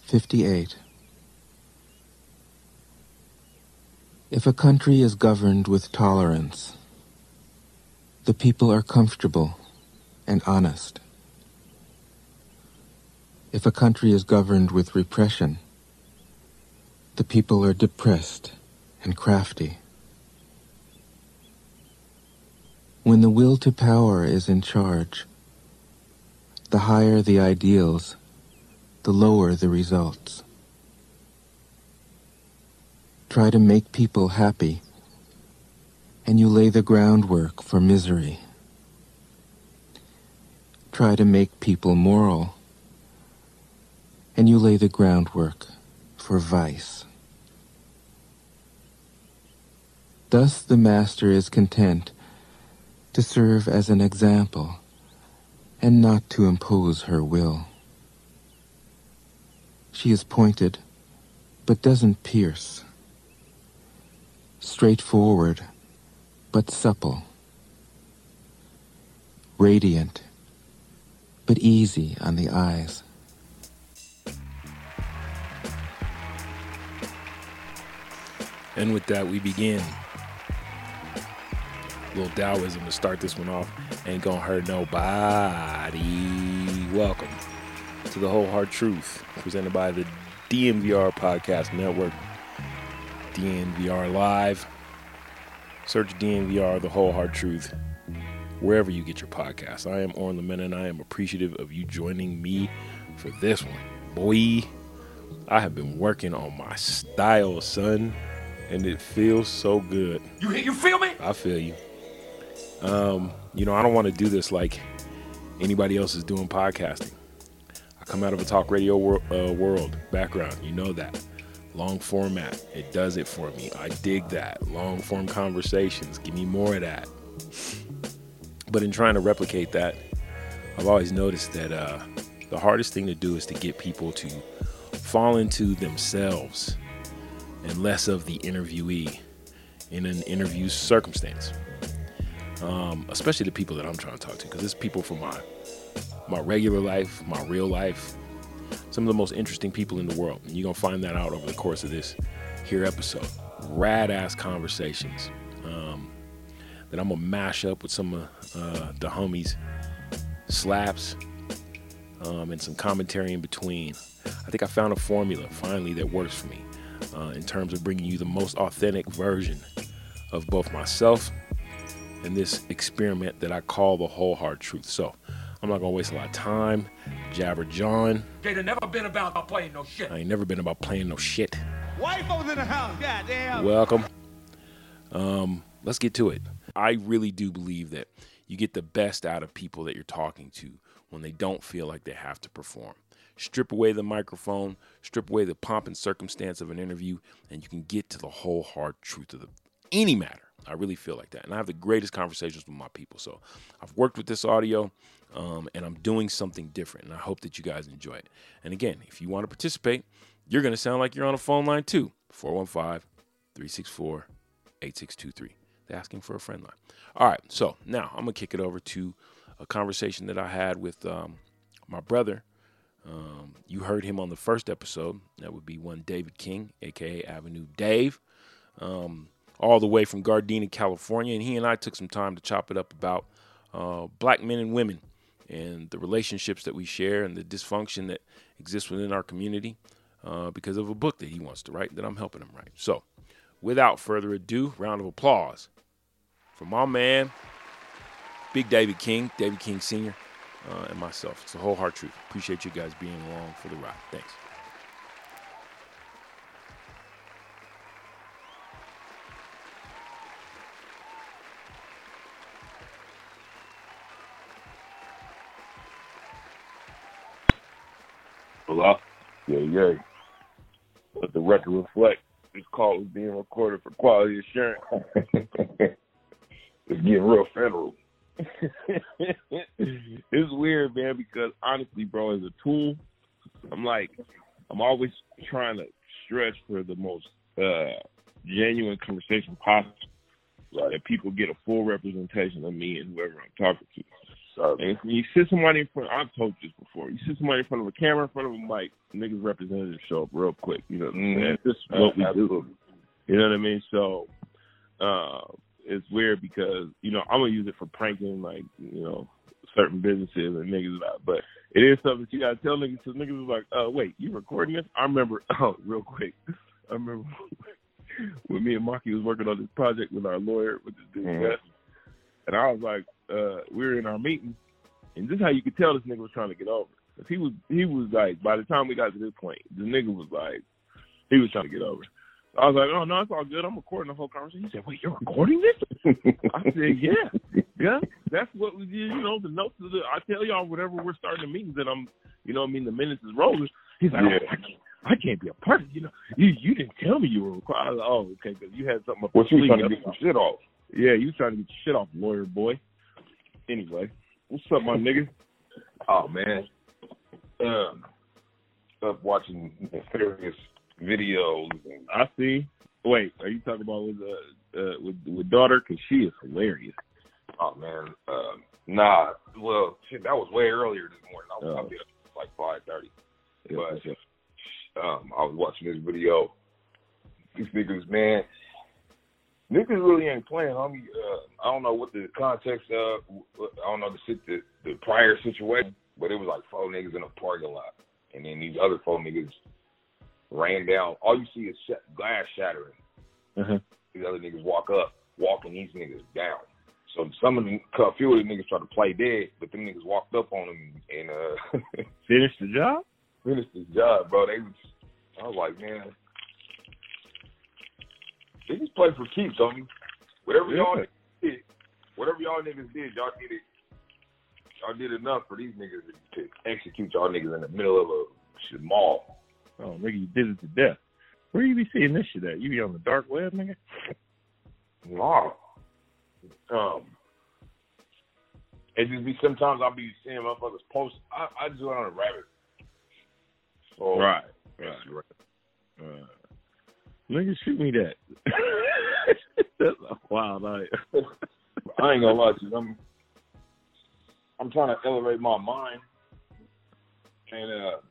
58. If a country is governed with tolerance, the people are comfortable and honest. If a country is governed with repression, the people are depressed and crafty. When the will to power is in charge, the higher the ideals, the lower the results. Try to make people happy, and you lay the groundwork for misery. Try to make people moral, and you lay the groundwork for vice. Thus the master is content to serve as an example and not to impose her will. She is pointed, but doesn't pierce. Straightforward, but supple. Radiant, but easy on the eyes. And with that, we begin. Little Taoism to start this one off. Ain't gonna hurt nobody. Welcome to The Whole Hard Truth, presented by the DNVR Podcast Network. DNVR Live. Search DNVR, The Whole Hard Truth, wherever you get your podcasts. I am Orrin Lamena, and I am appreciative of you joining me for this one. Boy, I have been working on my style, son, and it feels so good. You feel me? I feel you. I don't want to do this like anybody else is doing podcasting. I come out of a talk radio world background. You know that. Long format. It does it for me. I dig that. Long form conversations. Give me more of that. But in trying to replicate that, I've always noticed that the hardest thing to do is to get people to fall into themselves and less of the interviewee in an interview circumstance. Especially the people that I'm trying to talk to, because it's people from my regular life, my real life, some of the most interesting people in the world. And you're going to find that out over the course of this here episode. Rad-ass conversations that I'm going to mash up with some of the homies' slaps and some commentary in between. I think I found a formula, finally, that works for me in terms of bringing you the most authentic version of both myself and this experiment that I call The Whole Hard Truth. So I'm not going to waste a lot of time. Jabber John. It ain't never been about playing no shit. I ain't never been about playing no shit. Wife was in the house, goddamn. Welcome. Let's get to it. I really do believe that you get the best out of people that you're talking to when they don't feel like they have to perform. Strip away the microphone, strip away the pomp and circumstance of an interview, and you can get to the whole hard truth of any matter. I really feel like that. And I have the greatest conversations with my people. So I've worked with this audio, and I'm doing something different. And I hope that you guys enjoy it. And again, if you want to participate, you're going to sound like you're on a phone line too. 415-364-8623. They're asking for a friend line. All right. So now I'm going to kick it over to a conversation that I had with my brother. You heard him on the first episode. That would be one David King, a.k.a. Avenue Dave. All the way from Gardena, California, and he and I took some time to chop it up about black men and women and the relationships that we share and the dysfunction that exists within our community because of a book that he wants to write that I'm helping him write. So, without further ado, round of applause for my man, Big David King Sr., and myself. It's The Whole Hard Truth. Appreciate you guys being along for the ride. Thanks. Hello? Yeah. Let the record reflect. This call is being recorded for quality assurance. It's getting real federal. It's weird, man, because honestly, bro, as a tool, I'm always trying to stretch for the most genuine conversation possible. That people get a full representation of me and whoever I'm talking to. And you sit somebody in front, I've told you this before, you sit somebody in front of a camera, in front of a mic, niggas representatives show up real quick. You know what I'm saying? This is what we do. You know what I mean? So it's weird because, you know, I'm going to use it for pranking, like, you know, certain businesses and niggas about. But it is something that you got to tell niggas, because niggas was like, wait, you recording this? I remember, real quick, I remember when me and Marky was working on this project with our lawyer, with this dude, and I was like, we were in our meeting, and this is how you could tell this nigga was trying to get over. Because he was like, by the time we got to this point, the nigga was like, he was trying to get over. So I was like, oh, no, it's all good. I'm recording the whole conversation. He said, wait, you're recording this? I said, yeah. That's what we did, you know, the notes of I tell y'all whenever we're starting the meetings that I'm, you know what I mean, the minutes is rolling. He's like, I can't be a part of it. You know, you didn't tell me you were recording. I was like, oh, okay, because you had something up your sleeve. You trying to get some shit off. Yeah, you trying to get your shit off, lawyer boy. Anyway, what's up, my nigga? Oh, man. Up watching various videos. I see. Wait, are you talking about with daughter? Because she is hilarious. Oh, man. Nah. Well, shit, that was way earlier this morning. I was probably up like 5:30. But I was watching this video. These niggas, man. Niggas really ain't playing, homie. I don't know what the context of. I don't know the prior situation, but it was like 4 niggas in a parking lot, and then these other 4 niggas ran down. All you see is glass shattering. These other niggas walking these niggas down. So a few of the niggas tried to play dead, but them niggas walked up on them and finished the job. Finished the job, bro. I was like, man. They just play for keeps, homie. Whatever y'all niggas did, y'all did it. Y'all did enough for these niggas to execute y'all niggas in the middle of a mall. Oh, nigga, you did it to death. Where you be seeing this shit at? You be on the dark web, nigga? Wow. It just be sometimes I'll be seeing motherfuckers post. I just went on a rabbit. So, right. Nigga, shoot me that. That's a wild night. I ain't gonna lie to you. I'm trying to elevate my mind and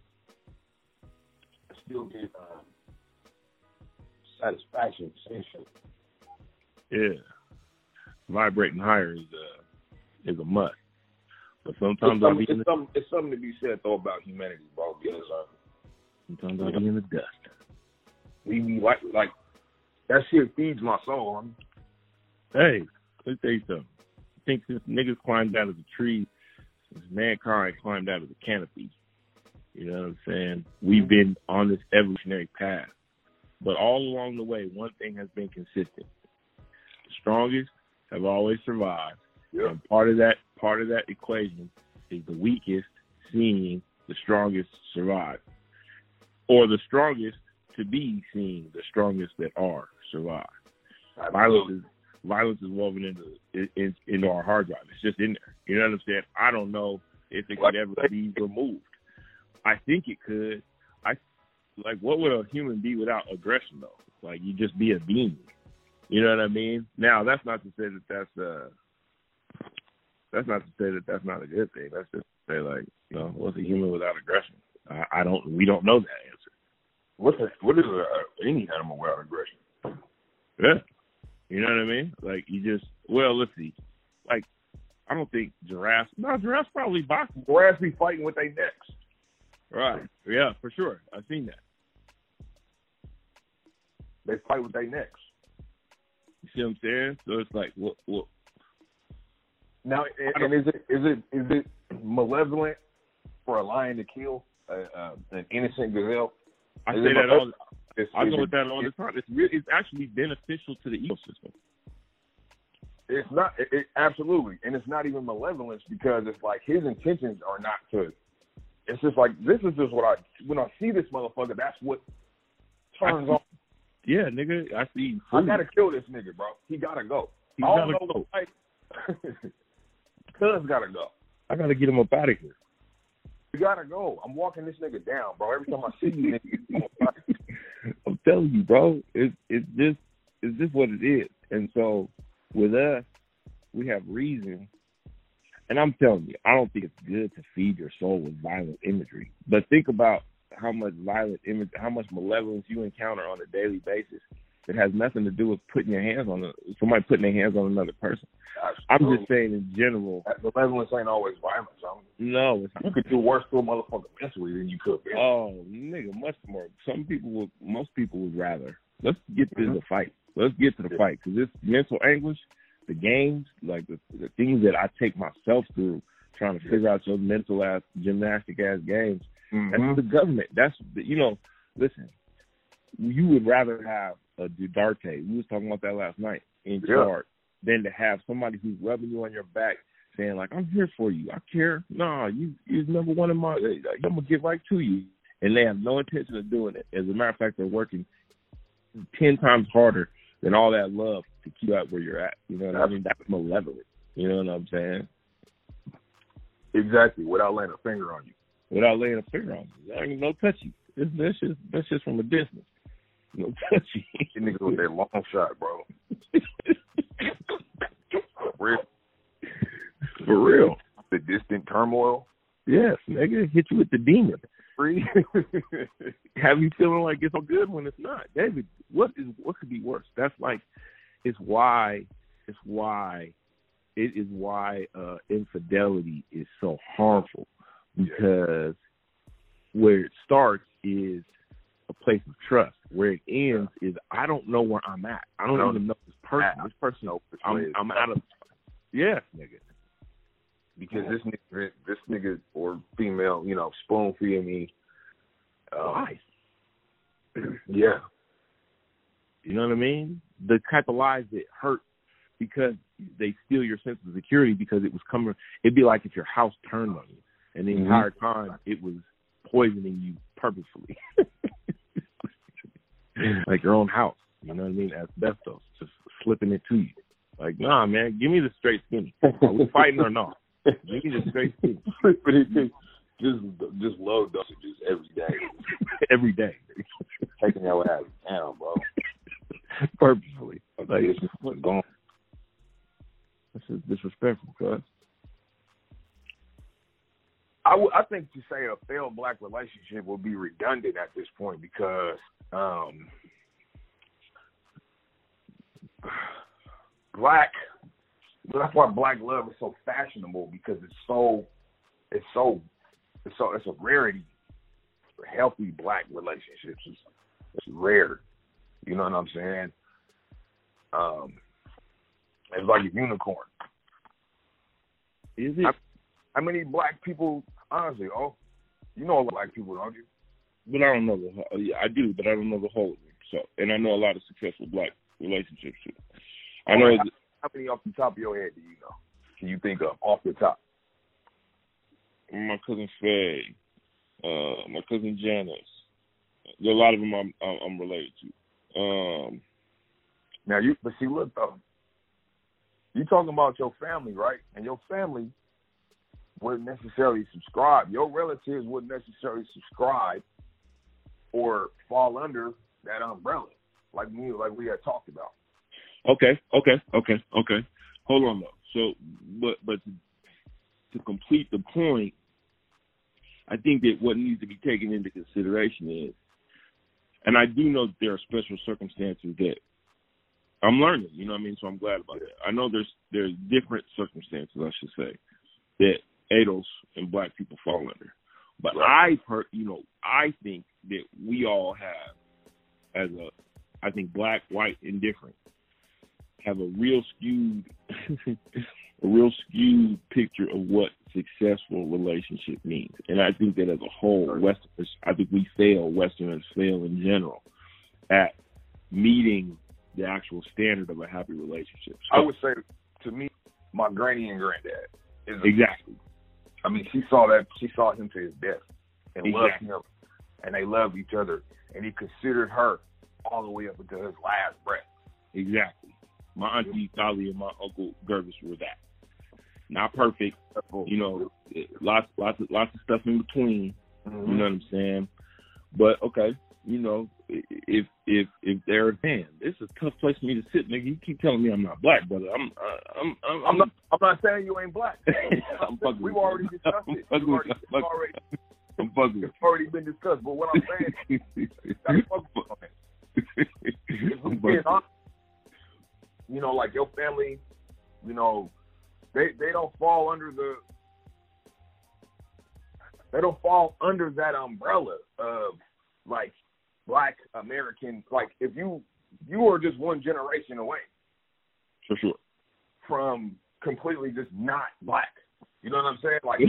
still get satisfaction. Yeah, vibrating higher is a must. But sometimes it's something to be said though about humanity, bro. Because sometimes I'll be in the dust. We be like that shit feeds my soul, homie. Hey, let me tell you something. I think since niggas climbed out of the tree, since mankind climbed out of the canopy, you know what I'm saying? We've been on this evolutionary path. But all along the way, one thing has been consistent. The strongest have always survived. Yep. And part of that equation is the weakest seeing the strongest survive. Or the strongest to be seeing the strongest that are survive. Violence is woven into our hard drive. It's just in there. You know what I'm saying? I don't know if it could ever be removed. I think it could. What would a human be without aggression, though? Like, you just be a being. You know what I mean? Now, that's not to say that's not a good thing. That's just to say, like, you know, what's a human without aggression? We don't know that answer. What is any animal without aggression? Yeah. You know what I mean? Like, let's see. Like, I don't think giraffes probably boxing. Giraffes be fighting with their necks. Right. Yeah, for sure. I've seen that. They fight with their necks. You see what I'm saying? So it's like, what? Now, and is it malevolent for a lion to kill an innocent gazelle? I say that all. I go with that all the time. It's actually beneficial to the ecosystem. It's not. Absolutely, and it's not even malevolence because it's like his intentions are not to. It's just like this is just when I see this motherfucker, that's what turns on. Yeah, nigga, I see. I gotta kill this nigga, bro. He gotta go. He gotta go. Cuz gotta go. I gotta get him up out of here. You gotta go. I'm walking this nigga down, bro. Every time I see you, nigga, I'm telling you, bro. It's just what it is. And so with us, we have reason And I'm telling you, I don't think it's good to feed your soul with violent imagery. But think about how much violent image, how much malevolence you encounter on a daily basis that has nothing to do with putting your hands on somebody putting their hands on another person. I'm just saying in general. Malevolence ain't always violence. No, it's you could do worse to a motherfucker mentally than you could. Man. Oh, nigga, much more. Most people would rather. Let's get to the fight. Let's get to the fight, because this mental anguish, the games, like the things that I take myself through trying to figure out your mental ass, gymnastic ass games. That's the government. That's listen. You would rather have a Duterte. We was talking about that last night in charge than to have somebody who's rubbing you on your back saying like, "I'm here for you. I care." Nah, you're number one in my. I'm gonna get right to you, and they have no intention of doing it. As a matter of fact, they're working 10 times harder than all that love to keep you out where you're at. You know what I mean? That's malevolent. You know what I'm saying? Exactly. Without laying a finger on you. Without laying a finger on you. There ain't no touchy. That's just from a distance. No touchy. You niggas with that long shot, bro. For real. The distant turmoil. Yes, nigga. Hit you with the demon. Free. Have you feeling like it's all good when it's not? David, what could be worse? That's like, it is why infidelity is so harmful, because where it starts is a place of trust. Where it ends is I don't know where I'm at. I don't even know this person. This person, I'm out of. Yes, nigga. Because this nigga or female, spoon feeding me. Lies. Yeah. You know what I mean? The type of lies that hurt because they steal your sense of security, because it was coming. It'd be like if your house turned on you, and the entire time it was poisoning you purposefully. Like your own house. You know what I mean? Asbestos, just slipping it to you. Like, nah, man, give me the straight skinny. Are we fighting or not? Give me the straight skinny. Just low dosages every day. Every day. Taking your ass down, bro. Purposefully. Like, what's going on? This is disrespectful, cuz. I think to say a failed black relationship will be redundant at this point, because that's why black love is so fashionable, because it's a rarity. Healthy black relationships it's rare. You know what I'm saying? It's like a unicorn. Is it? How many black people, honestly, you know a lot of black people, don't you? But I don't know I do, but I don't know the whole of them. So, and I know a lot of successful black relationships too. I know. How many off the top of your head do you know? Can you think of off the top? My cousin Faye, my cousin Janice. There are a lot of them I'm related to. Now but see, look though, you talking about your family, right? And your family wouldn't necessarily subscribe. Your relatives wouldn't necessarily subscribe or fall under that umbrella, like we had talked about. Okay. Hold on though. So, but to complete the point, I think that what needs to be taken into consideration is, and I do know that there are special circumstances that I'm learning. You know what I mean? So I'm glad about that. I know there's different circumstances, I should say, that ADOS and black people fall under. But right. I think that we all have, I think black, white, and different, have a real skewed picture of what successful relationship means. And I think that as a whole, Westerners fail in general at meeting the actual standard of a happy relationship. So, I would say, to me, my granny and granddad. Exactly. I mean, she saw him to his death and loved him, and they loved each other, and he considered her all the way up until his last breath. Exactly. My auntie Tali and my uncle Gervis were that. Not perfect, lots of stuff in between. Mm-hmm. You know what I'm saying? But okay, you know, if they're a fan, it's a tough place for me to sit, nigga. You keep telling me I'm not black, brother. I'm not saying you ain't black. We've already discussed it. It's already been discussed. But what I'm saying is, you know, like your family, you know, they don't fall under that umbrella of like Black American. Like if you are just one generation away, for sure, from completely just not black. You know what I'm saying? Like,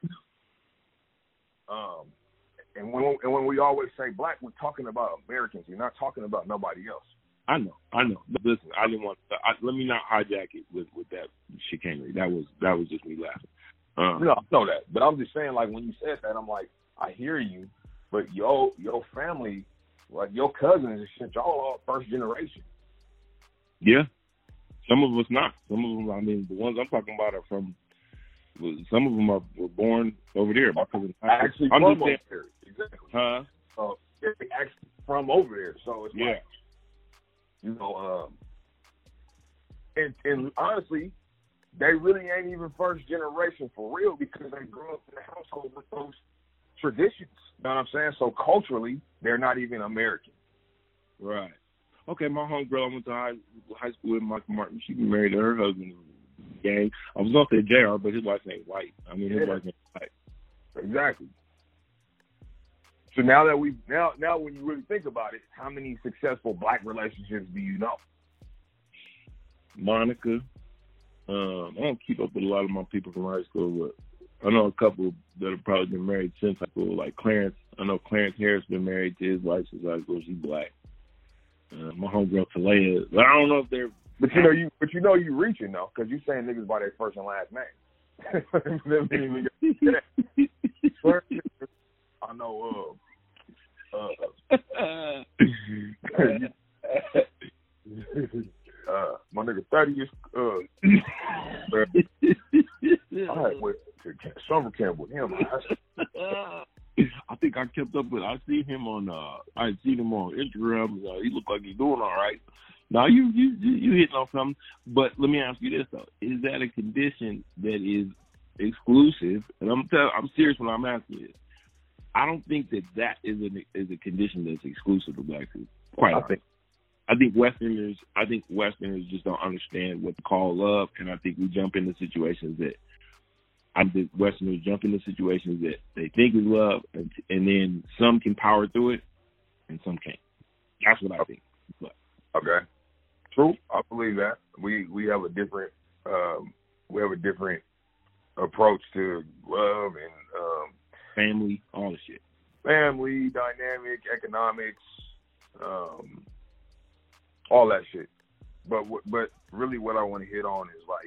and when we always say black, we're talking about Americans. We're not talking about nobody else. I know. But listen, I didn't want to. Let me not hijack it with that chicanery. That was just me laughing. No, I know that, but I'm just saying, like when you said that, I'm like, I hear you, but your family, like your cousins and shit, y'all are first generation. Yeah, some of us not. Some of them, I mean, the ones I'm talking about are from. Some of them were born over there. My cousin actually from over there. Exactly. Huh? They're actually from over there. So it's like, you know, and honestly, they really ain't even first generation for real because they grew up in the household with those traditions. You know what I'm saying? So culturally, they're not even American. Right. Okay, my homegirl I went to high school with, Michael Martin, she married to her husband. Gang. I was going to say JR, but his wife ain't white. I mean, his wife ain't white. Exactly. So now that now when you really think about it, how many successful black relationships do you know? Monica. I don't keep up with a lot of my people from high school, but I know a couple that have probably been married since high school, like Clarence. I know Clarence Harris been married to his wife since high school. She's black. My homegirl Talea. I don't know if they're. But you know you reaching though, because you saying niggas by their first and last name. I know. My nigga 30 is. I had went to summer camp with him. I think I kept up with. I seen him on Instagram. He looked like he's doing all right. Now you hitting on something, but let me ask you this though: is that a condition that is exclusive? And I'm serious when I'm asking you this. I don't think that is a condition that's exclusive to black people. I think Westerners just don't understand what to call love, and I think we jump into situations that Westerners jump into situations that they think is love, and then some can power through it, and some can't. That's what I think. But, okay. True, I believe that we have a different approach to love and family, all the shit. Family, dynamic, economics, all that shit. But really, what I want to hit on is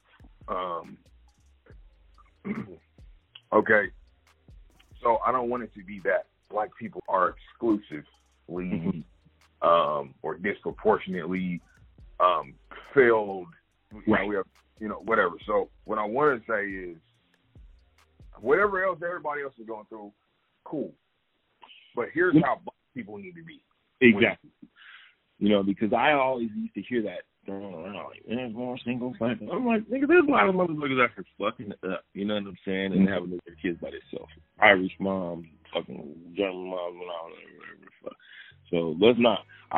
like, okay. So I don't want it to be that black people are exclusively or disproportionately failed, right. We have, whatever. So what I want to say is, whatever else everybody else is going through, cool. But here's how black people need to be. Exactly. Because I always used to hear that thrown around, like, there's more single family. I'm like, nigga, there's a lot of motherfuckers out here fucking up, you know what I'm saying, and having their kids by themselves. Irish moms, fucking German moms, and all that, whatever the fuck. So let's not.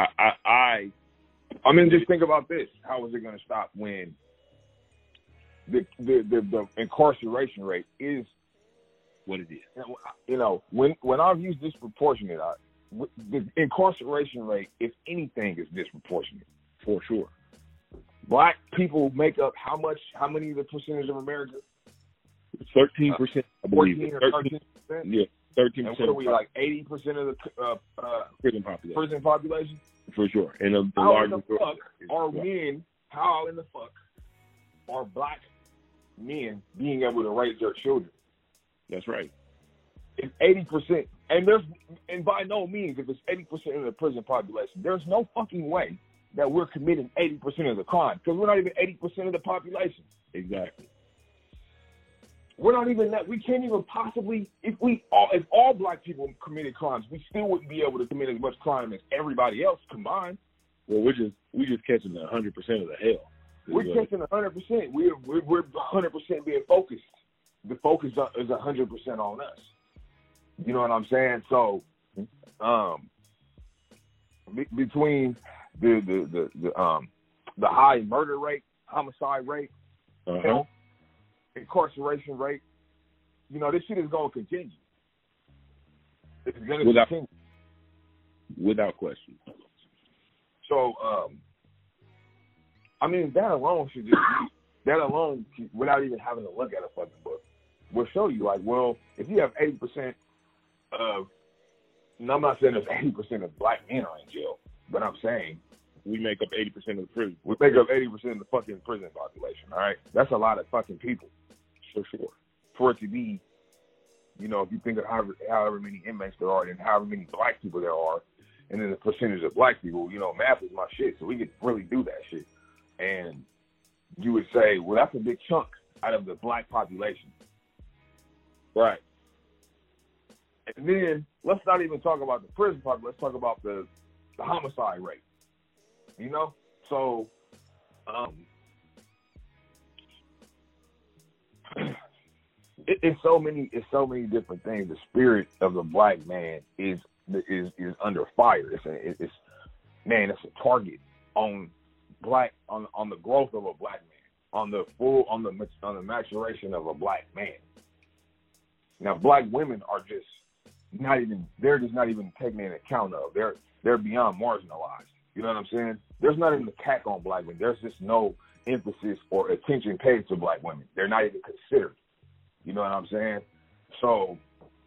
I mean, just think about this. How is it going to stop when the incarceration rate is what it is? When I've used disproportionate, the incarceration rate, if anything, is disproportionate for sure. Black people make up how many of the percentage of America? 13%. 14 or 13%. Yeah, 13%. And what are we, like 80% of the prison population? For sure. And the largest. How in the fuck are black men being able to raise their children? That's right. It's 80%, and by no means, if it's 80% of the prison population, there's no fucking way that we're committing 80% of the crime, because we're not even 80% of the population. Exactly. we're not even that. We can't even possibly, if all black people committed crimes, we still wouldn't be able to commit as much crime as everybody else combined. Well, we just catching 100% of the hell. We're catching 100%. We're 100% being focused. The focus is 100% on us. You know what I'm saying? So, between the high murder rate, homicide rate, incarceration rate, you know, this shit is going to continue. It's going to continue. Without question. So, I mean, that alone, without even having to look at a fucking book, will show you, like, well, if you have 80% of, and I'm not saying there's 80% of black men are in jail, but I'm saying we make up 80% of the prison. We make up 80% of the fucking prison population, all right? That's a lot of fucking people, for sure. For it to be, you know, if you think of however many inmates there are and however many black people there are, and then the percentage of black people, you know, math is my shit, so we could really do that shit. And you would say, well, that's a big chunk out of the black population. Right. And then let's not even talk about the prison population. Let's talk about the homicide rate. You know? So, it's so many different things. The spirit of the black man is under fire. It's a target on the growth of a black man, on the maturation of a black man. Now, black women are just not even taken into account of. They're beyond marginalized. You know what I'm saying? There's not even an attack on black women. There's just no emphasis or attention paid to black women. They're not even considered. You know what I'm saying? So,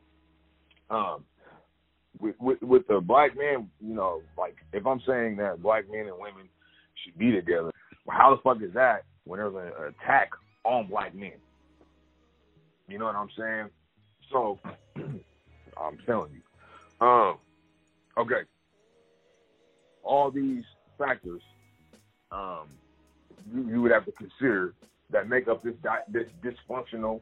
with the black man, you know, like if I'm saying that black men and women should be together, well, how the fuck is that when there's an attack on black men? You know what I'm saying? So, I'm telling you. Okay. All these factors you would have to consider that make up this dysfunctional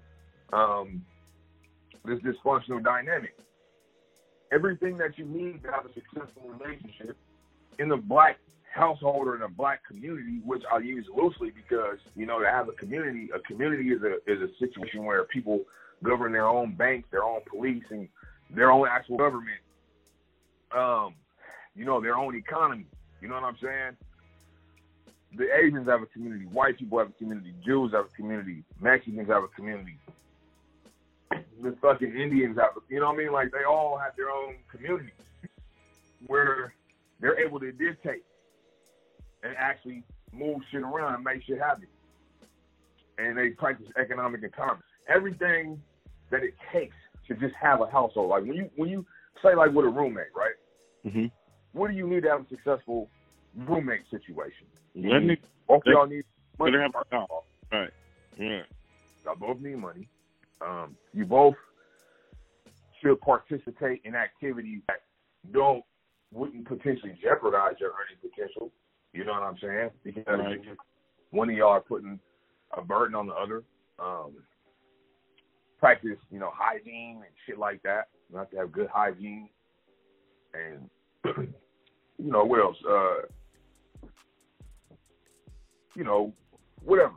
dynamic. Everything that you need to have a successful relationship in the black household or in a black community, which I use loosely because, you know, to have a community is a situation where people govern their own banks, their own police, and their own actual government, you know, their own economy. You know what I'm saying? The Asians have a community. White people have a community. Jews have a community. Mexicans have a community. The fucking Indians have, you know what I mean? Like, they all have their own communities where they're able to dictate and actually move shit around and make shit happen. And they practice economic empowerment. Everything that it takes to just have a household. Like, when you say, like, with a roommate, right? Mm-hmm. What do you need to have a successful roommate situation? Both y'all need money. Right. Yeah. Y'all both need money. You both should participate in activities that wouldn't potentially jeopardize your earning potential. You know what I'm saying? Because one of y'all are putting a burden on the other. Practice, you know, hygiene and shit like that. You have to have good hygiene. And, you know, what else? You know, whatever.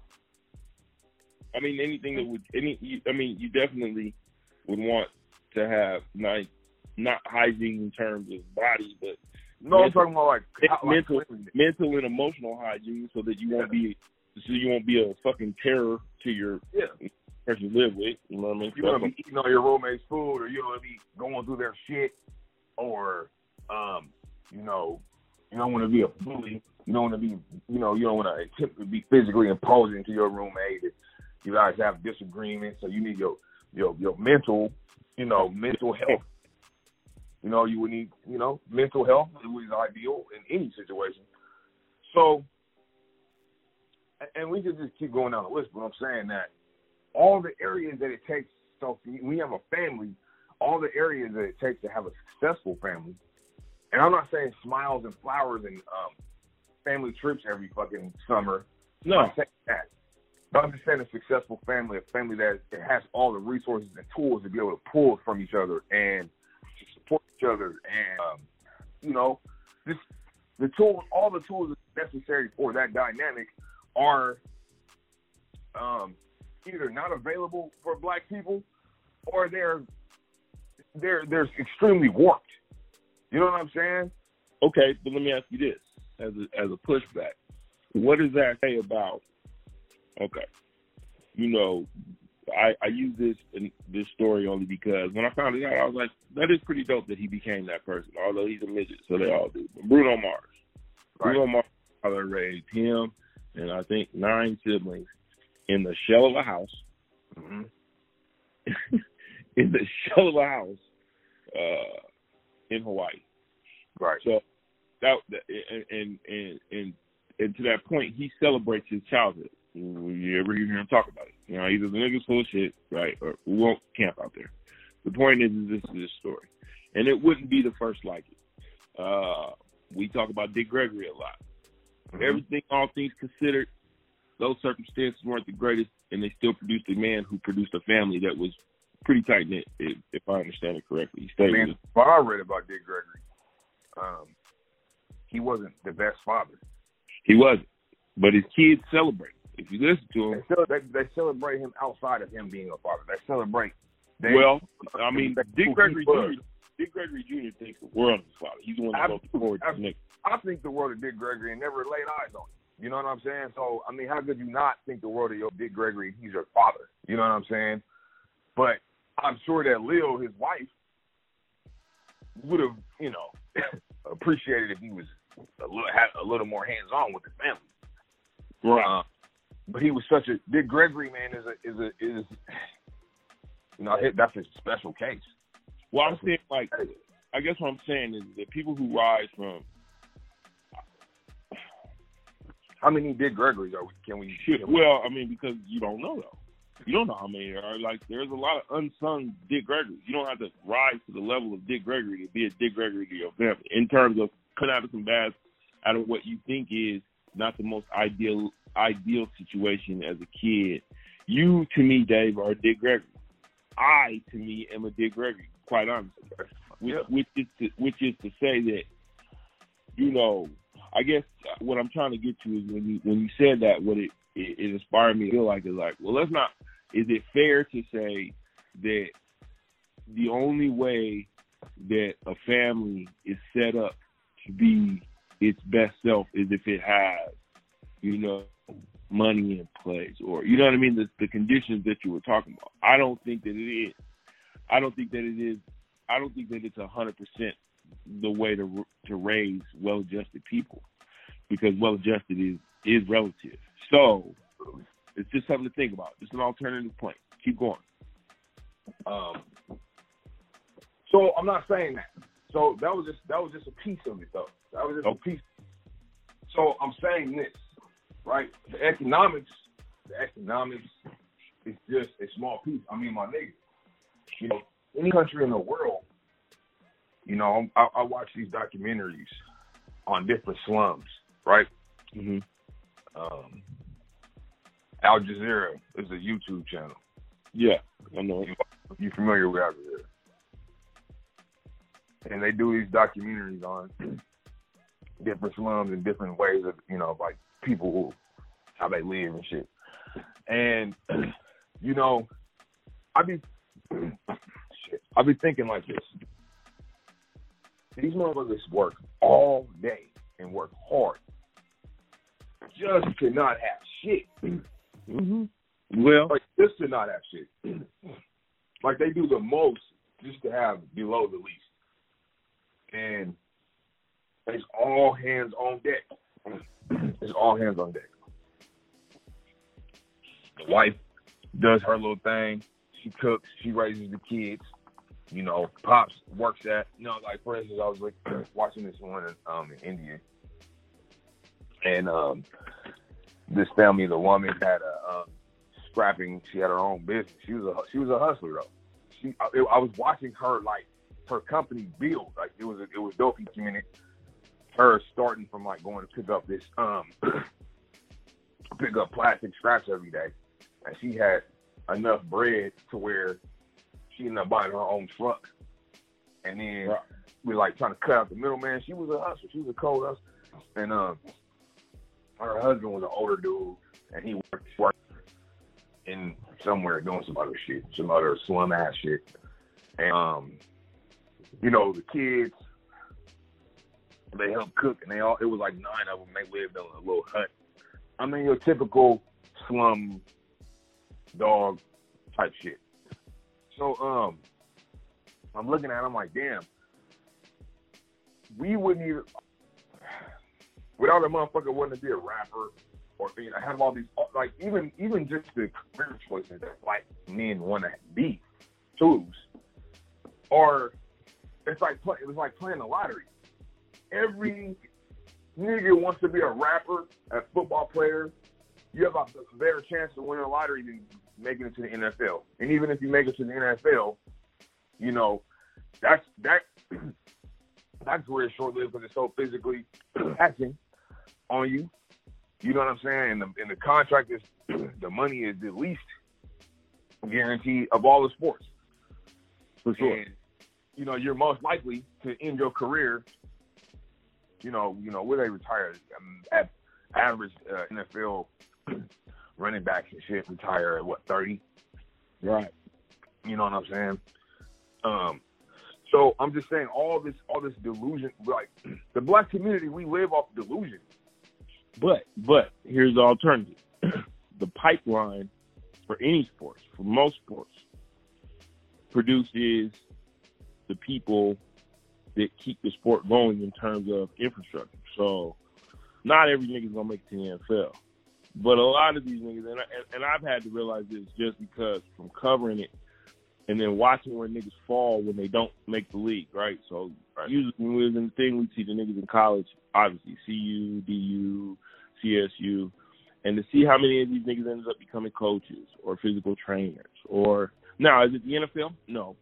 I mean, anything that you definitely would want to have not hygiene in terms of body, but I'm talking about like mental and emotional hygiene, so that you won't be a fucking terror to your person you live with. You know what I mean? You don't want to be eating all your roommate's food, or you don't want to be going through their shit, or you know, you don't want to be a bully. You don't want to be, you know, you don't want to attempt to be physically imposing to your roommate. You guys have disagreements, so you need your mental health. You know, you would need, you know, mental health is ideal in any situation. So, and we could just keep going down the list, but I'm saying that all the areas that it takes, so we have a family, all the areas that it takes to have a successful family, and I'm not saying smiles and flowers and family trips every fucking summer. No. I'm saying that. understand a successful family, a family that has all the resources and tools to be able to pull from each other and to support each other, and just the tools, all the tools necessary for that dynamic are either not available for Black people, or they're extremely warped. You know what I'm saying? Okay, but let me ask you this as a pushback. What does that say about? Okay, I use this story only because when I found it out, I was like, that is pretty dope that he became that person. Although he's a midget, so they all do. But Bruno Mars, right. Bruno Mars' father raised him and I think 9 siblings in the shell of a house. Mm-hmm. In the shell of a house in Hawaii. Right. So that and to that point, he celebrates his childhood. You ever hear him talk about it? Either the nigga's full of shit, right, or we won't camp out there. The point is this is his story, and it wouldn't be the first like it. We talk about Dick Gregory a lot. Mm-hmm. Everything, all things considered, those circumstances weren't the greatest, and they still produced a man who produced a family that was pretty tight knit, if I understand it correctly. What I read about Dick Gregory, he wasn't the best father. He wasn't, but his kids celebrate. If you listen to him, they celebrate him outside of him being a father. They celebrate. Dick Gregory Jr. thinks the world of his father. He's the one that goes forward to Nick. I think the world of Dick Gregory and never laid eyes on him. You know what I'm saying? So, I mean, how could you not think the world of your Dick Gregory? He's your father. You know what I'm saying? But I'm sure that Lil, his wife, would have, appreciated if he was had a little more hands-on with the family. Right. But he was such a Dick Gregory, man, is that's a special case. Well, I'm saying, I guess what I'm saying is that people who rise from. How many Dick Gregory's can we? Well, I mean, because you don't know though. You don't know how many there are. There's a lot of unsung Dick Gregory's. You don't have to rise to the level of Dick Gregory to be a Dick Gregory to your family. In terms of cutting out some bad out of what you think is not the most ideal situation as a kid. You, to me, Dave, are a Dick Gregory. I, to me, am a Dick Gregory, quite honestly. Which is to say that, I guess what I'm trying to get to is when you said that, what it inspired me to feel like is is it fair to say that the only way that a family is set up to be its best self is if it has, money in place, or you know what I mean, the conditions that you were talking about. I don't think that it is. I don't think that it's 100% the way to raise well-adjusted people, because well-adjusted is relative. So it's just something to think about. Just an alternative point. Keep going. So I'm not saying that. So that was just a piece of it, though. That was just a piece. So I'm saying this, right? The economics is just a small piece. I mean, my nigga, any country in the world, I watch these documentaries on different slums, right? Mm-hmm. Al Jazeera is a YouTube channel. Yeah, I know. You familiar with Al Jazeera? And they do these documentaries on different slums and different ways of, people how they live and shit. And, I be thinking like this. These motherfuckers work all day and work hard just to not have shit. Mm-hmm. Well, just to not have shit. They do the most just to have below the least. And it's all hands on deck. It's all hands on deck. The wife does her little thing. She cooks. She raises the kids. Pops works at, for instance, I was watching this one in India. And this family, the woman had a scrapping. She had her own business. She was a hustler though. I was watching her her company build. It was dope. Her starting from going to pick up this pick up plastic scraps every day and she had enough bread to where she ended up buying her own truck. And then we like trying to cut out the middleman. She was a hustler. She was a cold hustler. And her husband was an older dude, and he worked in somewhere doing some other shit, some other slum ass shit. And you know, the kids, they helped cook, and it was like 9 of them. They lived in a little hut. I mean, your typical slum dog type shit. So I'm looking at it, I'm like, damn, we wouldn't even, without a motherfucker wanting to be a rapper or have all these, like, even just the career choices that white men want to be, choose, or it was like playing the lottery. Every nigga wants to be a rapper, a football player. You have a better chance of winning a lottery than making it to the NFL. And even if you make it to the NFL, you know, that career is short-lived because it's so physically taxing on you. You know what I'm saying? And the contract is, the money is the least guaranteed of all the sports. For sure. And, you know, you're most likely to end your career, you know, where they retire. At average NFL running backs and shit retire at, 30? Right. You know what I'm saying? So I'm just saying all this delusion, like the black community, we live off delusion. But here's the alternative. The pipeline for any sports, for most sports, produces the people that keep the sport going in terms of infrastructure. So not every nigga's gonna make it to the NFL. But a lot of these niggas, and I've had to realize this just because from covering it and then watching where niggas fall when they don't make the league, right? So usually when we was in the thing, we see the niggas in college, obviously, CU, DU, CSU, and to see how many of these niggas ended up becoming coaches or physical trainers. Or, now, is it the NFL? No.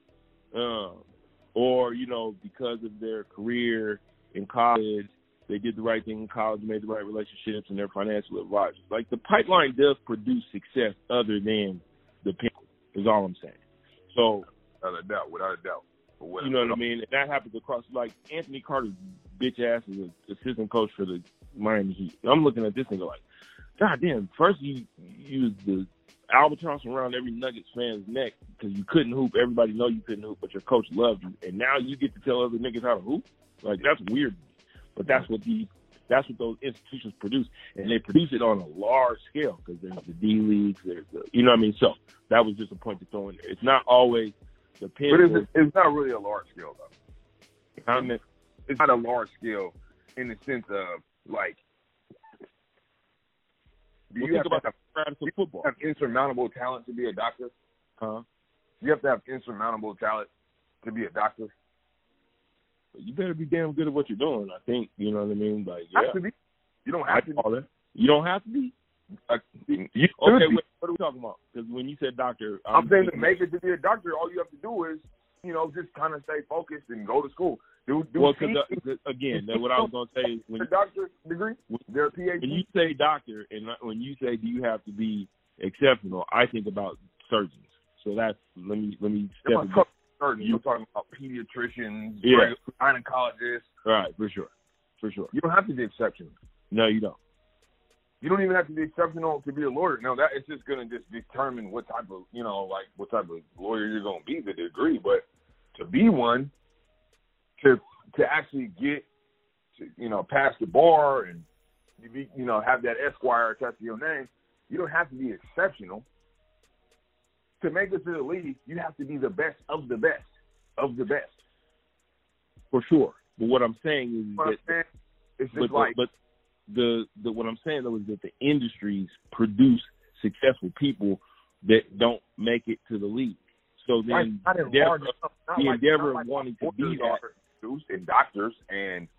Or, you know, because of their career in college, they did the right thing in college, made the right relationships, and their financial advisors. Like, the pipeline does produce success other than the pinnacle, is all I'm saying. So, without a doubt. You know what I mean? And that happens across, like, Anthony Carter's bitch ass is an assistant coach for the Miami Heat. I'm looking at this nigga like, God damn, first you used the albatross around every Nuggets fan's neck because you couldn't hoop. Everybody know you couldn't hoop, but your coach loved you. And now you get to tell other niggas how to hoop? Like, that's weird. But that's what those institutions produce. And they produce it on a large scale because there's the D leagues, there's the, you know what I mean? So that was just a point to throw in there. It's not always the pin. But it's not really a large scale, though. I mean, it's not a large scale in the sense of, like, do you have to have insurmountable talent to be a doctor? Huh? You have to have insurmountable talent to be a doctor. You better be damn good at what you're doing, I think. You know what I mean? Like, yeah. Have to be. You don't have to be. You don't have to be? Okay, wait, what are we talking about? Because when you said doctor... I'm saying to make it to be a doctor, all you have to do is, you know, just kind of stay focused and go to school. Again, what I was going to say is... When, a doctor's degree? They're a PhD? When you say doctor, and when you say do you have to be exceptional, I think about surgeons. So that's... Let me step in. You're talking about pediatricians, gynecologists. Right, for sure. You don't have to be exceptional. No, you don't. You don't even have to be exceptional to be a lawyer. No, that it's just going to just determine what type of, you know, like what type of lawyer you're going to be, the degree. But to be one, to actually get to, you know, pass the bar and you know, have that Esquire attached to your name, you don't have to be exceptional. To make it to the league, you have to be the best of the best of the best. For sure. But what I'm saying is what I'm saying though is that the industries produce successful people that don't make it to the league. So then the endeavor of wanting to be that, and doctors and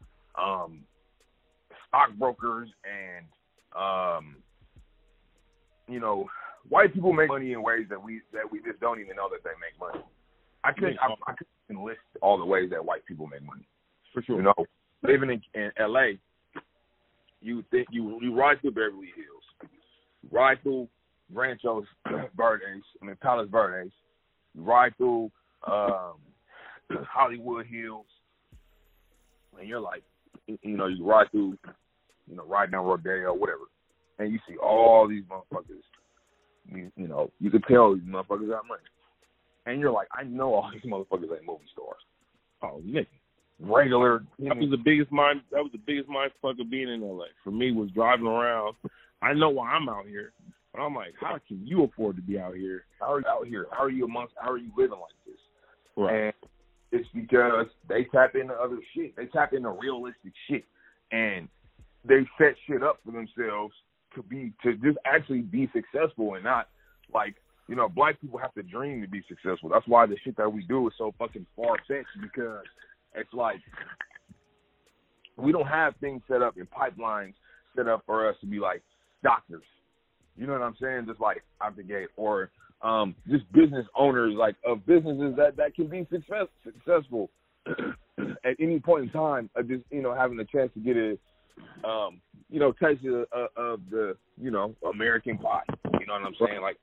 stockbrokers and you know, white people make money in ways that we just don't even know that they make money. I couldn't list all the ways that white people make money. For sure. You know, living in LA, you ride through Beverly Hills, you ride through Ranchos Verdes, Palos Verdes. You ride through Hollywood Hills, and you're like, you ride through, ride down Rodeo, whatever, and you see all these motherfuckers. You can tell these motherfuckers got money, and you're like, I know all these motherfuckers ain't movie stars. Oh, nigga. Regular. That was the biggest mind fuck of being in LA. For me, was driving around. I know why I'm out here, but I'm like, how can you afford to be out here? How are you out here? How are you living like this? Right. And it's because they tap into other shit. They tap into realistic shit, and they set shit up for themselves to just actually be successful, and not like, black people have to dream to be successful. That's why the shit that we do is so fucking far-fetched, because it's like we don't have things set up in pipelines set up for us to be like doctors. You know what I'm saying? Just like out the gate, or just business owners like of businesses that can be successful at any point in time. Just having a chance to get a taste of the American pie. You know what I'm saying? Like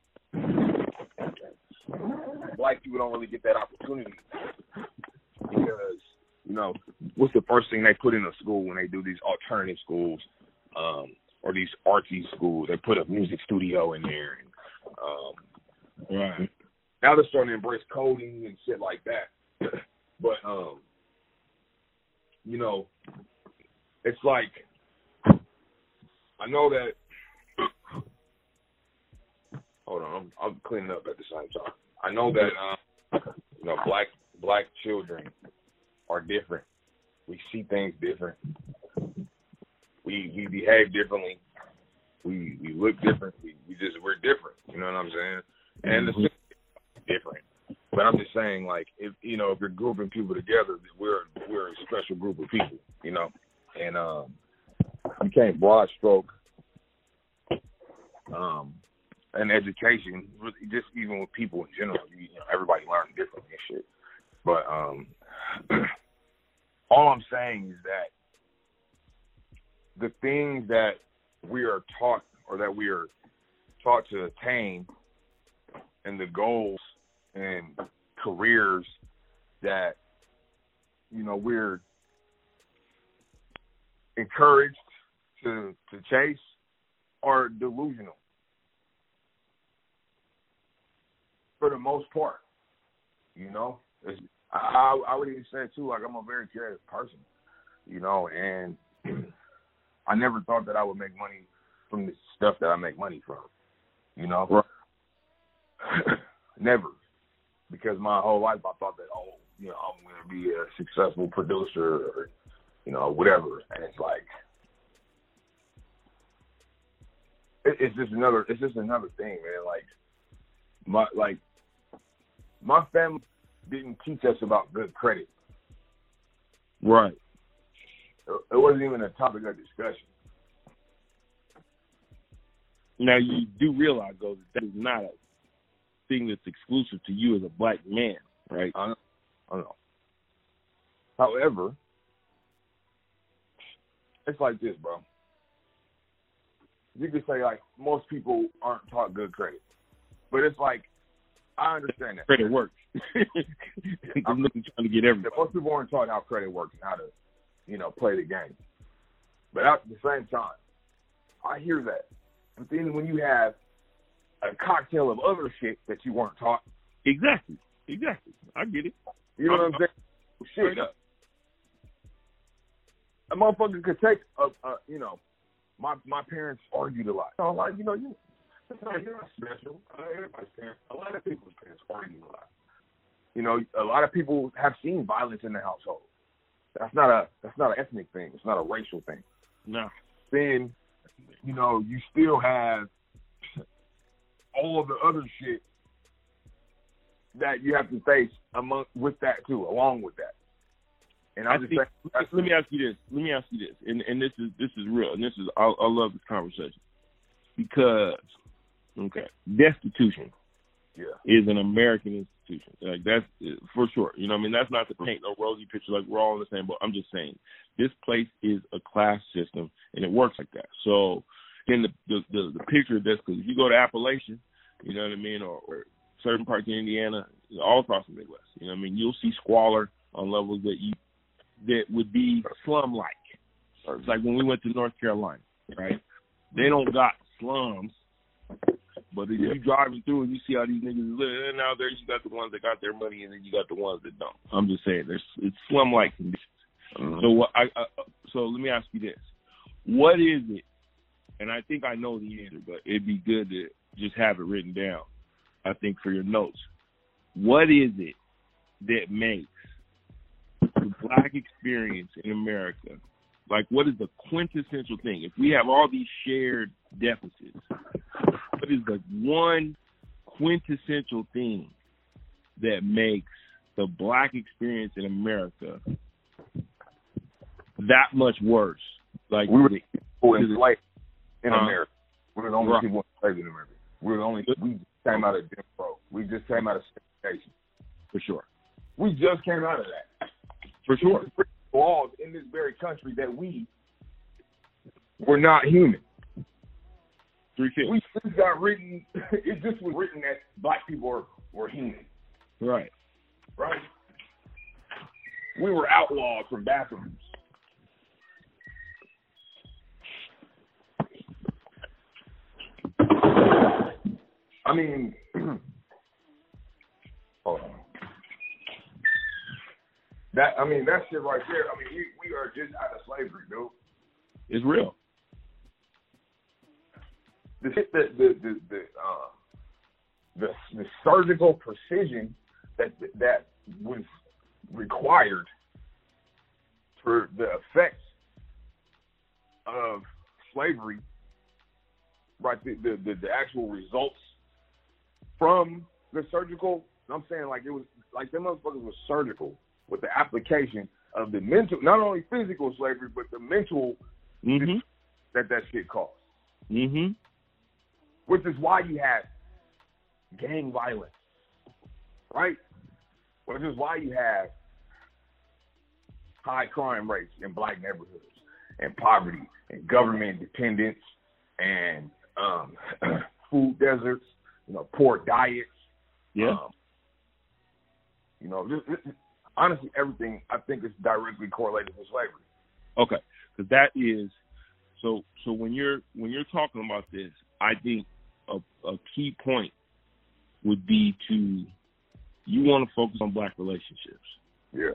black people don't really get that opportunity because what's the first thing they put in a school when they do these alternative schools or these artsy schools? They put a music studio in there, and right now they're starting to embrace coding and shit like that. But it's like I know that. Hold on, I'm cleaning up at the same time. I know that black children are different. We see things different. We behave differently. We look different. We're different. You know what I'm saying? And the system is different. But I'm just saying, like, if you're grouping people together, we're a special group of people. And you can't broad stroke an education, just even with people in general. Everybody learns differently and shit. But all I'm saying is that the things that we are taught, or that we are taught to attain, and the goals and careers that we're encouraged to chase, are delusional for the most part. I would even say too, like, I'm a very creative person, and I never thought that I would make money from the stuff that I make money from, Right. Never, because my whole life I thought that, I'm going to be a successful producer, or whatever, and it's like it's just another thing, man. Like my family didn't teach us about good credit. Right. It wasn't even a topic of discussion. Now, you do realize, though, that is not a thing that's exclusive to you as a black man, right? I know. However, it's like this, bro. You could say, like, most people aren't taught good credit. But it's like, I understand that. Credit works. I'm trying to get everything. Most people aren't taught how credit works and how to, play the game. But at the same time, I hear that. But then when you have a cocktail of other shit that you weren't taught. Exactly. I get it. You know what I'm saying? Shit. A motherfucker could take my parents argued a lot. So I'm like, you're not special. Everybody's parents, a lot of people's parents argue a lot. A lot of people have seen violence in the household. That's not an ethnic thing. It's not a racial thing. No. Then, you still have all of the other shit that you have to face with that too, along with that. And let me ask you this, and this is real, and I love this conversation, because destitution is an American institution. Like, that's for sure. That's not to paint no rosy picture like we're all in the same boat. I'm just saying this place is a class system, and it works like that. So paint the picture of this, because if you go to Appalachia, you know what I mean, or certain parts of Indiana, all across the Midwest, you know what I mean, you'll see squalor on levels that would be slum-like. It's like when we went to North Carolina, right? They don't got slums, but if you driving through and you see how these niggas live, and now there you got the ones that got their money, and then you got the ones that don't. I'm just saying, it's slum-like conditions. So so let me ask you this: what is it? And I think I know the answer, but it'd be good to just have it written down, I think, for your notes. What is it that makes the Black experience in America, like, what is the quintessential thing? If we have all these shared deficits, what is the one quintessential thing that makes the Black experience in America that much worse? Like, we were people enslaved in America. We were the only people enslaved in America. We just came out of Jim Crow. We just came out of segregation. For sure. We just came out of that. For sure. Laws in this very country that we were not human. We just got written. It just was written that Black people were human. Right. Right. We were outlawed from bathrooms. I mean, hold on. That shit right there. I mean, we are just out of slavery, dude. It's real. The surgical precision that was required for the effects of slavery, right? The actual results from the surgical. I'm saying, like, it was like them motherfuckers was surgical with the application of the mental, not only physical slavery, but the mental that shit caused. Mm-hmm. Which is why you had gang violence, right? Which is why you have high crime rates in Black neighborhoods, and poverty, and government dependence, and food deserts, poor diets. Yeah. Honestly, everything I think is directly correlated with slavery. Okay, because that is so. When you're talking about this, I think a key point would be you want to focus on Black relationships. Yeah.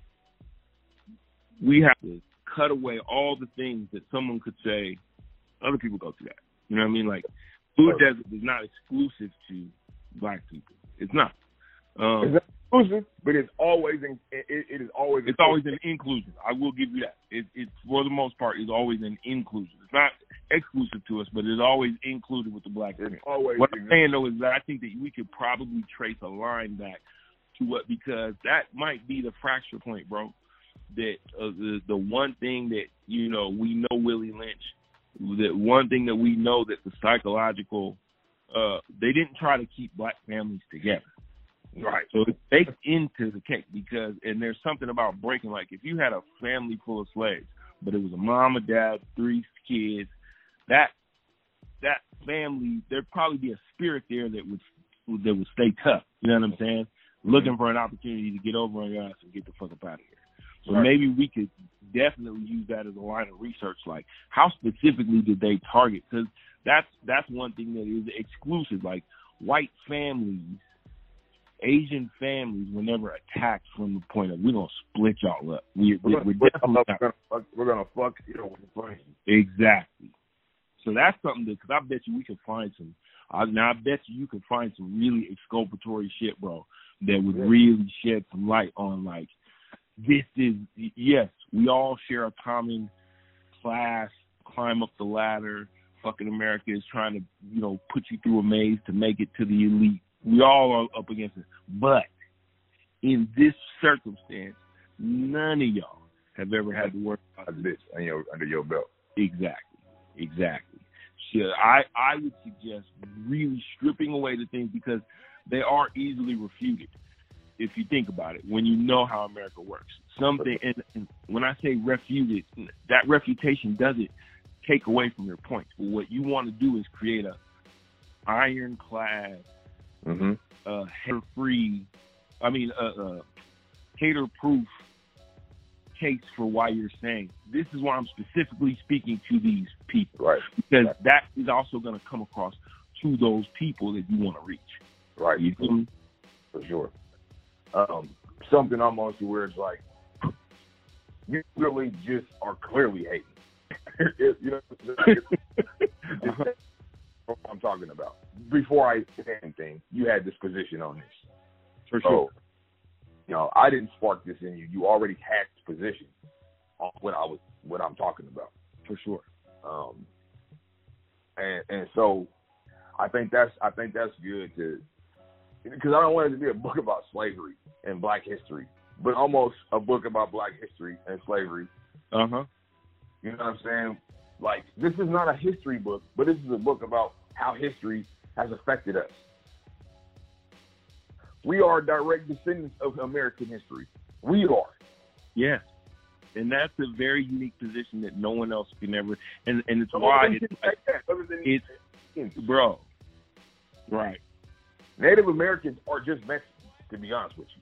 We have to cut away all the things that someone could say. Other people go through that. You know what I mean? Like, food desert is not exclusive to Black people. It's not. It's not exclusive, but it's always it's always an inclusion. I will give you that. It's for the most part is always an inclusion. It's not exclusive to us, but it's always included with the Black community. What I'm saying though is that I think that we could probably trace a line back to because that might be the fracture point, bro. That the one thing that we know Willie Lynch. The one thing that we know that the psychological, they didn't try to keep Black families together. Right. So it's baked into the cake and there's something about breaking, like if you had a family full of slaves, but it was a mom, a dad, 3 kids, that family, there'd probably be a spirit there that would stay tough. You know what I'm saying? Looking for an opportunity to get over on your ass and get the fuck up out of here. So maybe we could definitely use that as a line of research, like how specifically did they target? Because that's one thing that is exclusive. Like white families, Asian families were never attacked from the point of we're gonna split y'all up. We're definitely gonna fuck with the funny. Exactly. So that's something because I bet you we could find some. I bet you could find some really exculpatory shit, bro, that would really shed some light on like. This is, yes, we all share a common class, climb up the ladder. Fucking America is trying to, put you through a maze to make it to the elite. We all are up against it. But in this circumstance, none of y'all have ever had to work about this under your belt. Exactly. So I would suggest really stripping away the things because they are easily refuted. If you think about it, when you know how America works, something, and when I say refuted, that refutation doesn't take away from your points. But what you want to do is create a ironclad, hater-proof case for why you're saying this is why I'm specifically speaking to these people, right? Because that is also going to come across to those people that you want to reach, right? You feel me? For sure. Something I'm on to where it's like you really just are clearly hating. You know what I'm talking about. Before I say anything, you had this position on this. For sure. You know, I didn't spark this in you. You already had this position on what I'm talking about. For sure. And so I think that's good to, because I don't want it to be a book about slavery and Black history, but almost a book about Black history and slavery. You know what I'm saying? Like, this is not a history book, but this is a book about how history has affected us. We are direct descendants of American history. We are. Yeah. And that's a very unique position that no one else can ever, and it's why it's bro. Right. Native Americans are just Mexicans, to be honest with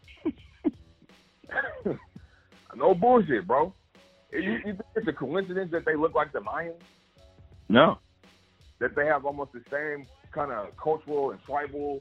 you. No bullshit, bro. You think it's a coincidence that they look like the Mayans? No. That they have almost the same kind of cultural and tribal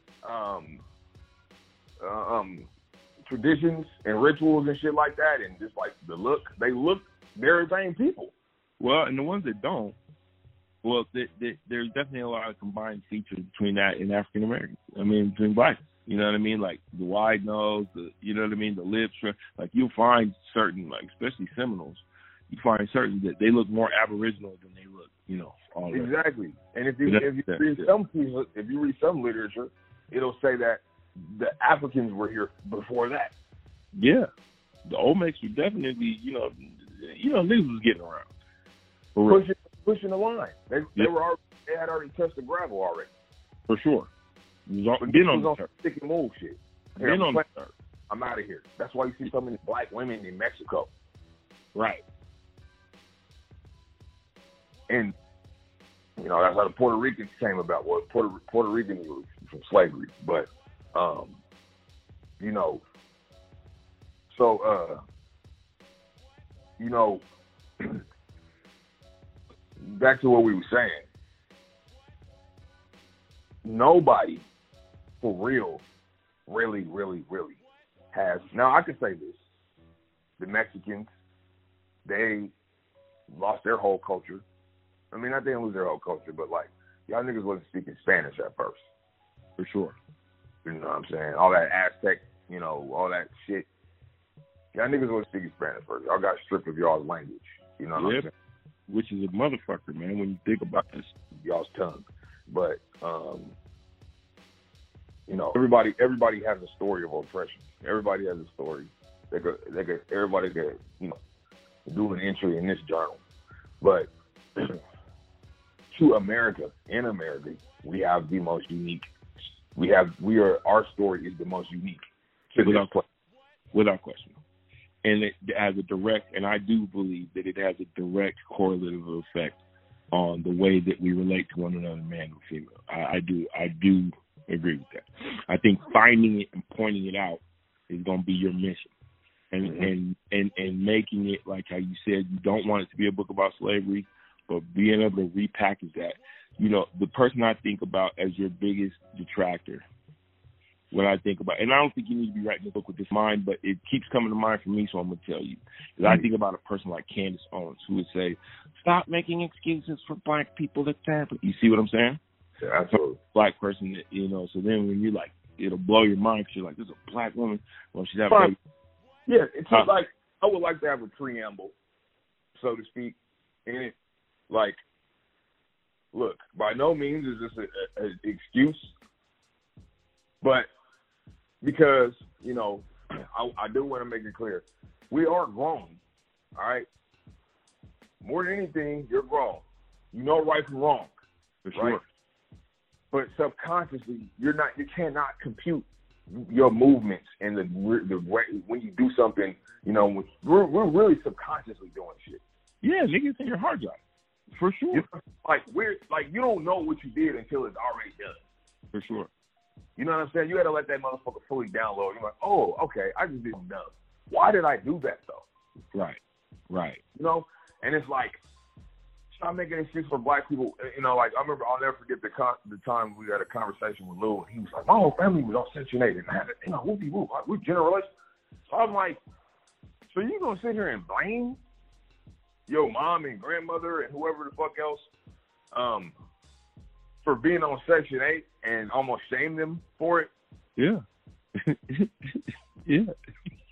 traditions and rituals and shit like that, and just like they're the same people. Well, and the ones that don't, well, there's definitely a lot of combined features between that and African Americans. I mean, between Blacks. You know what I mean? Like the wide nose, you know what I mean? The lips. Like you'll find certain, like especially Seminoles, you find certain that they look more Aboriginal than they look, you know. All exactly. And if you read some literature, it'll say that the Africans were here before that. Yeah, the Olmecs were definitely, you know, niggas was getting around, pushing the line. They had already touched the gravel already. For sure. Been on the stick and move shit. Been on the turf. I'm out of here. That's why you see so many Black women in Mexico. Right. And you know, that's how the Puerto Ricans came about. Well, Puerto Ricans were from slavery, but you know, so you know, back to what we were saying. Nobody for real really has. Now I can say this: the Mexicans, they lost their whole culture. I mean, not they didn't lose their whole culture, but like y'all niggas wasn't speaking Spanish at first. For sure. You know what I'm saying? All that Aztec, you know, all that shit. Y'all niggas wasn't speaking Spanish first. Y'all got stripped of y'all's language. You know what I'm saying? Which is a motherfucker, man, when you think about this. Y'all's tongue. But you know, everybody has a story of oppression. Everybody has a story. Everybody could, you know, do an entry in this journal. But to America, in America, we have the most unique. Our story is the most unique. Without question. And it has a direct, and I do believe that it has a direct correlative effect on the way that we relate to one another, man or female. I do agree with that. I think finding it and pointing it out is going to be your mission, and making it like how you said, you don't want it to be a book about slavery, but being able to repackage that. You know, the person I think about as your biggest detractor, when I think about, and I don't think you need to be writing a book with this mind, but it keeps coming to mind for me, so I'm going to tell you. Because I think about a person like Candace Owens, who would say, stop making excuses for Black people that's happening. You see what I'm saying? Yeah, absolutely. Black person, that, you know, so then when you're like, it'll blow your mind because you're like, there's a Black woman. Well, she's having a baby. Yeah, it's just like, I would like to have a preamble, so to speak, in it. Like, look, by no means is this an excuse, but because, you know, I do want to make it clear, we are grown, all right? More than anything, you're grown. You know right from wrong, for sure. Right? But subconsciously, you cannot compute your movements and the way when you do something. You know, we're really subconsciously doing shit. Yeah, niggas in your hard drive. For sure. Like you don't know what you did until it's already done. For sure. You know what I'm saying? You got to let that motherfucker fully download. You're like, oh, okay, I just didn't know. Why did I do that though? Right. You know, and it's like, stop making excuses for black people. You know, like I remember, I'll never forget the time we had a conversation with Lou, and he was like, my whole family was on Section 8 and had it, you know, whoopie-whoop, we're generalists. So I'm like, so you gonna sit here and blame your mom and grandmother and whoever the fuck else for being on Section 8 and almost shame them for it? Yeah. Yeah.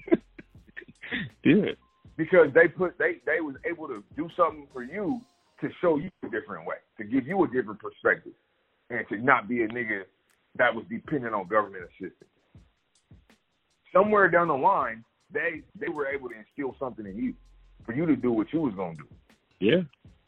Yeah. Because they was able to do something for you to show you a different way, to give you a different perspective, and to not be a nigga that was dependent on government assistance. Somewhere down the line, they were able to instill something in you for you to do what you was gonna do. Yeah.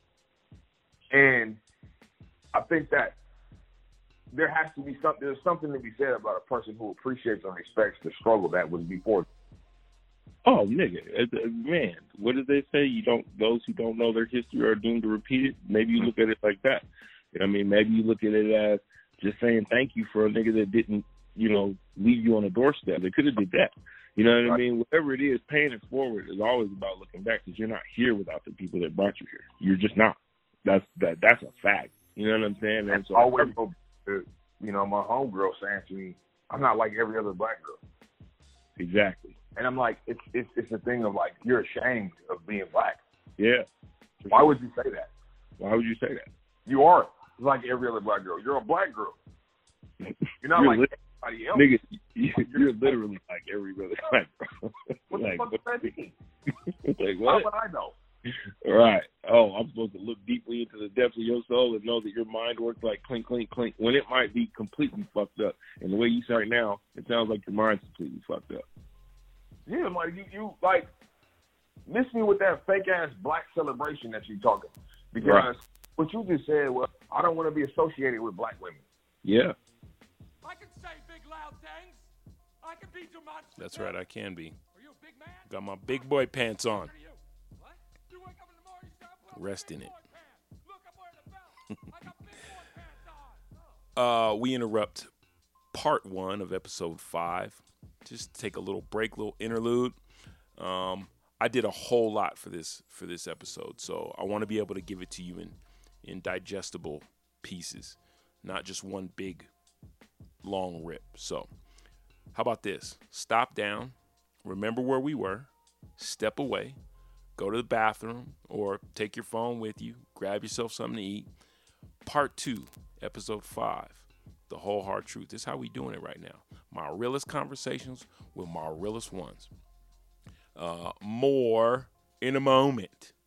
And I think that there has to be something. There's something to be said about a person who appreciates and respects the struggle that was before. Oh, nigga, man, what did they say? Those who don't know their history are doomed to repeat it. Maybe you look at it like that. You know what I mean? Maybe you look at it as just saying thank you for a nigga that didn't, you know, leave you on a doorstep. They could have did that. You know what I mean? Whatever it is, paying it forward is always about looking back, because you're not here without the people that brought you here. You're just not. That's a fact. You know what I'm saying? And so always, you know, my homegirl saying to me, I'm not like every other black girl. Exactly. And I'm like, it's a thing of like, you're ashamed of being black. Yeah. Why would you say that? Why would you say that? You are like every other black girl. You're a black girl. You're not like anybody else. Nigga, you're literally like every other black girl. What like, the fuck does that mean? Like, what? How would I know? Right. Oh, I'm supposed to look deeply into the depths of your soul and know that your mind works like clink, clink, clink, when it might be completely fucked up. And the way you say right now, it sounds like your mind's completely fucked up. Yeah, like you like miss me with that fake ass black celebration that you talking. Because what you just said was, I don't want to be associated with black women. Yeah. I can say big loud things. I can be demonstrative. That's right, I can be. Are you a big man? Got my big boy pants on. What? You wake up in the morning, you start putting Rest in it. big boy pants. Look, I'm wearing a belt. I got big boy pants on. We interrupt part 1 of episode 5. Just take a little break, little interlude. I did a whole lot for this episode, so I want to be able to give it to you in digestible pieces, not just one big long rip. So how about this? Stop down, remember where we were, step away, go to the bathroom, or take your phone with you, grab yourself something to eat. Part 2, episode 5, the whole hard truth. This is how we doing it right now. My realest conversations with my realest ones. More in a moment.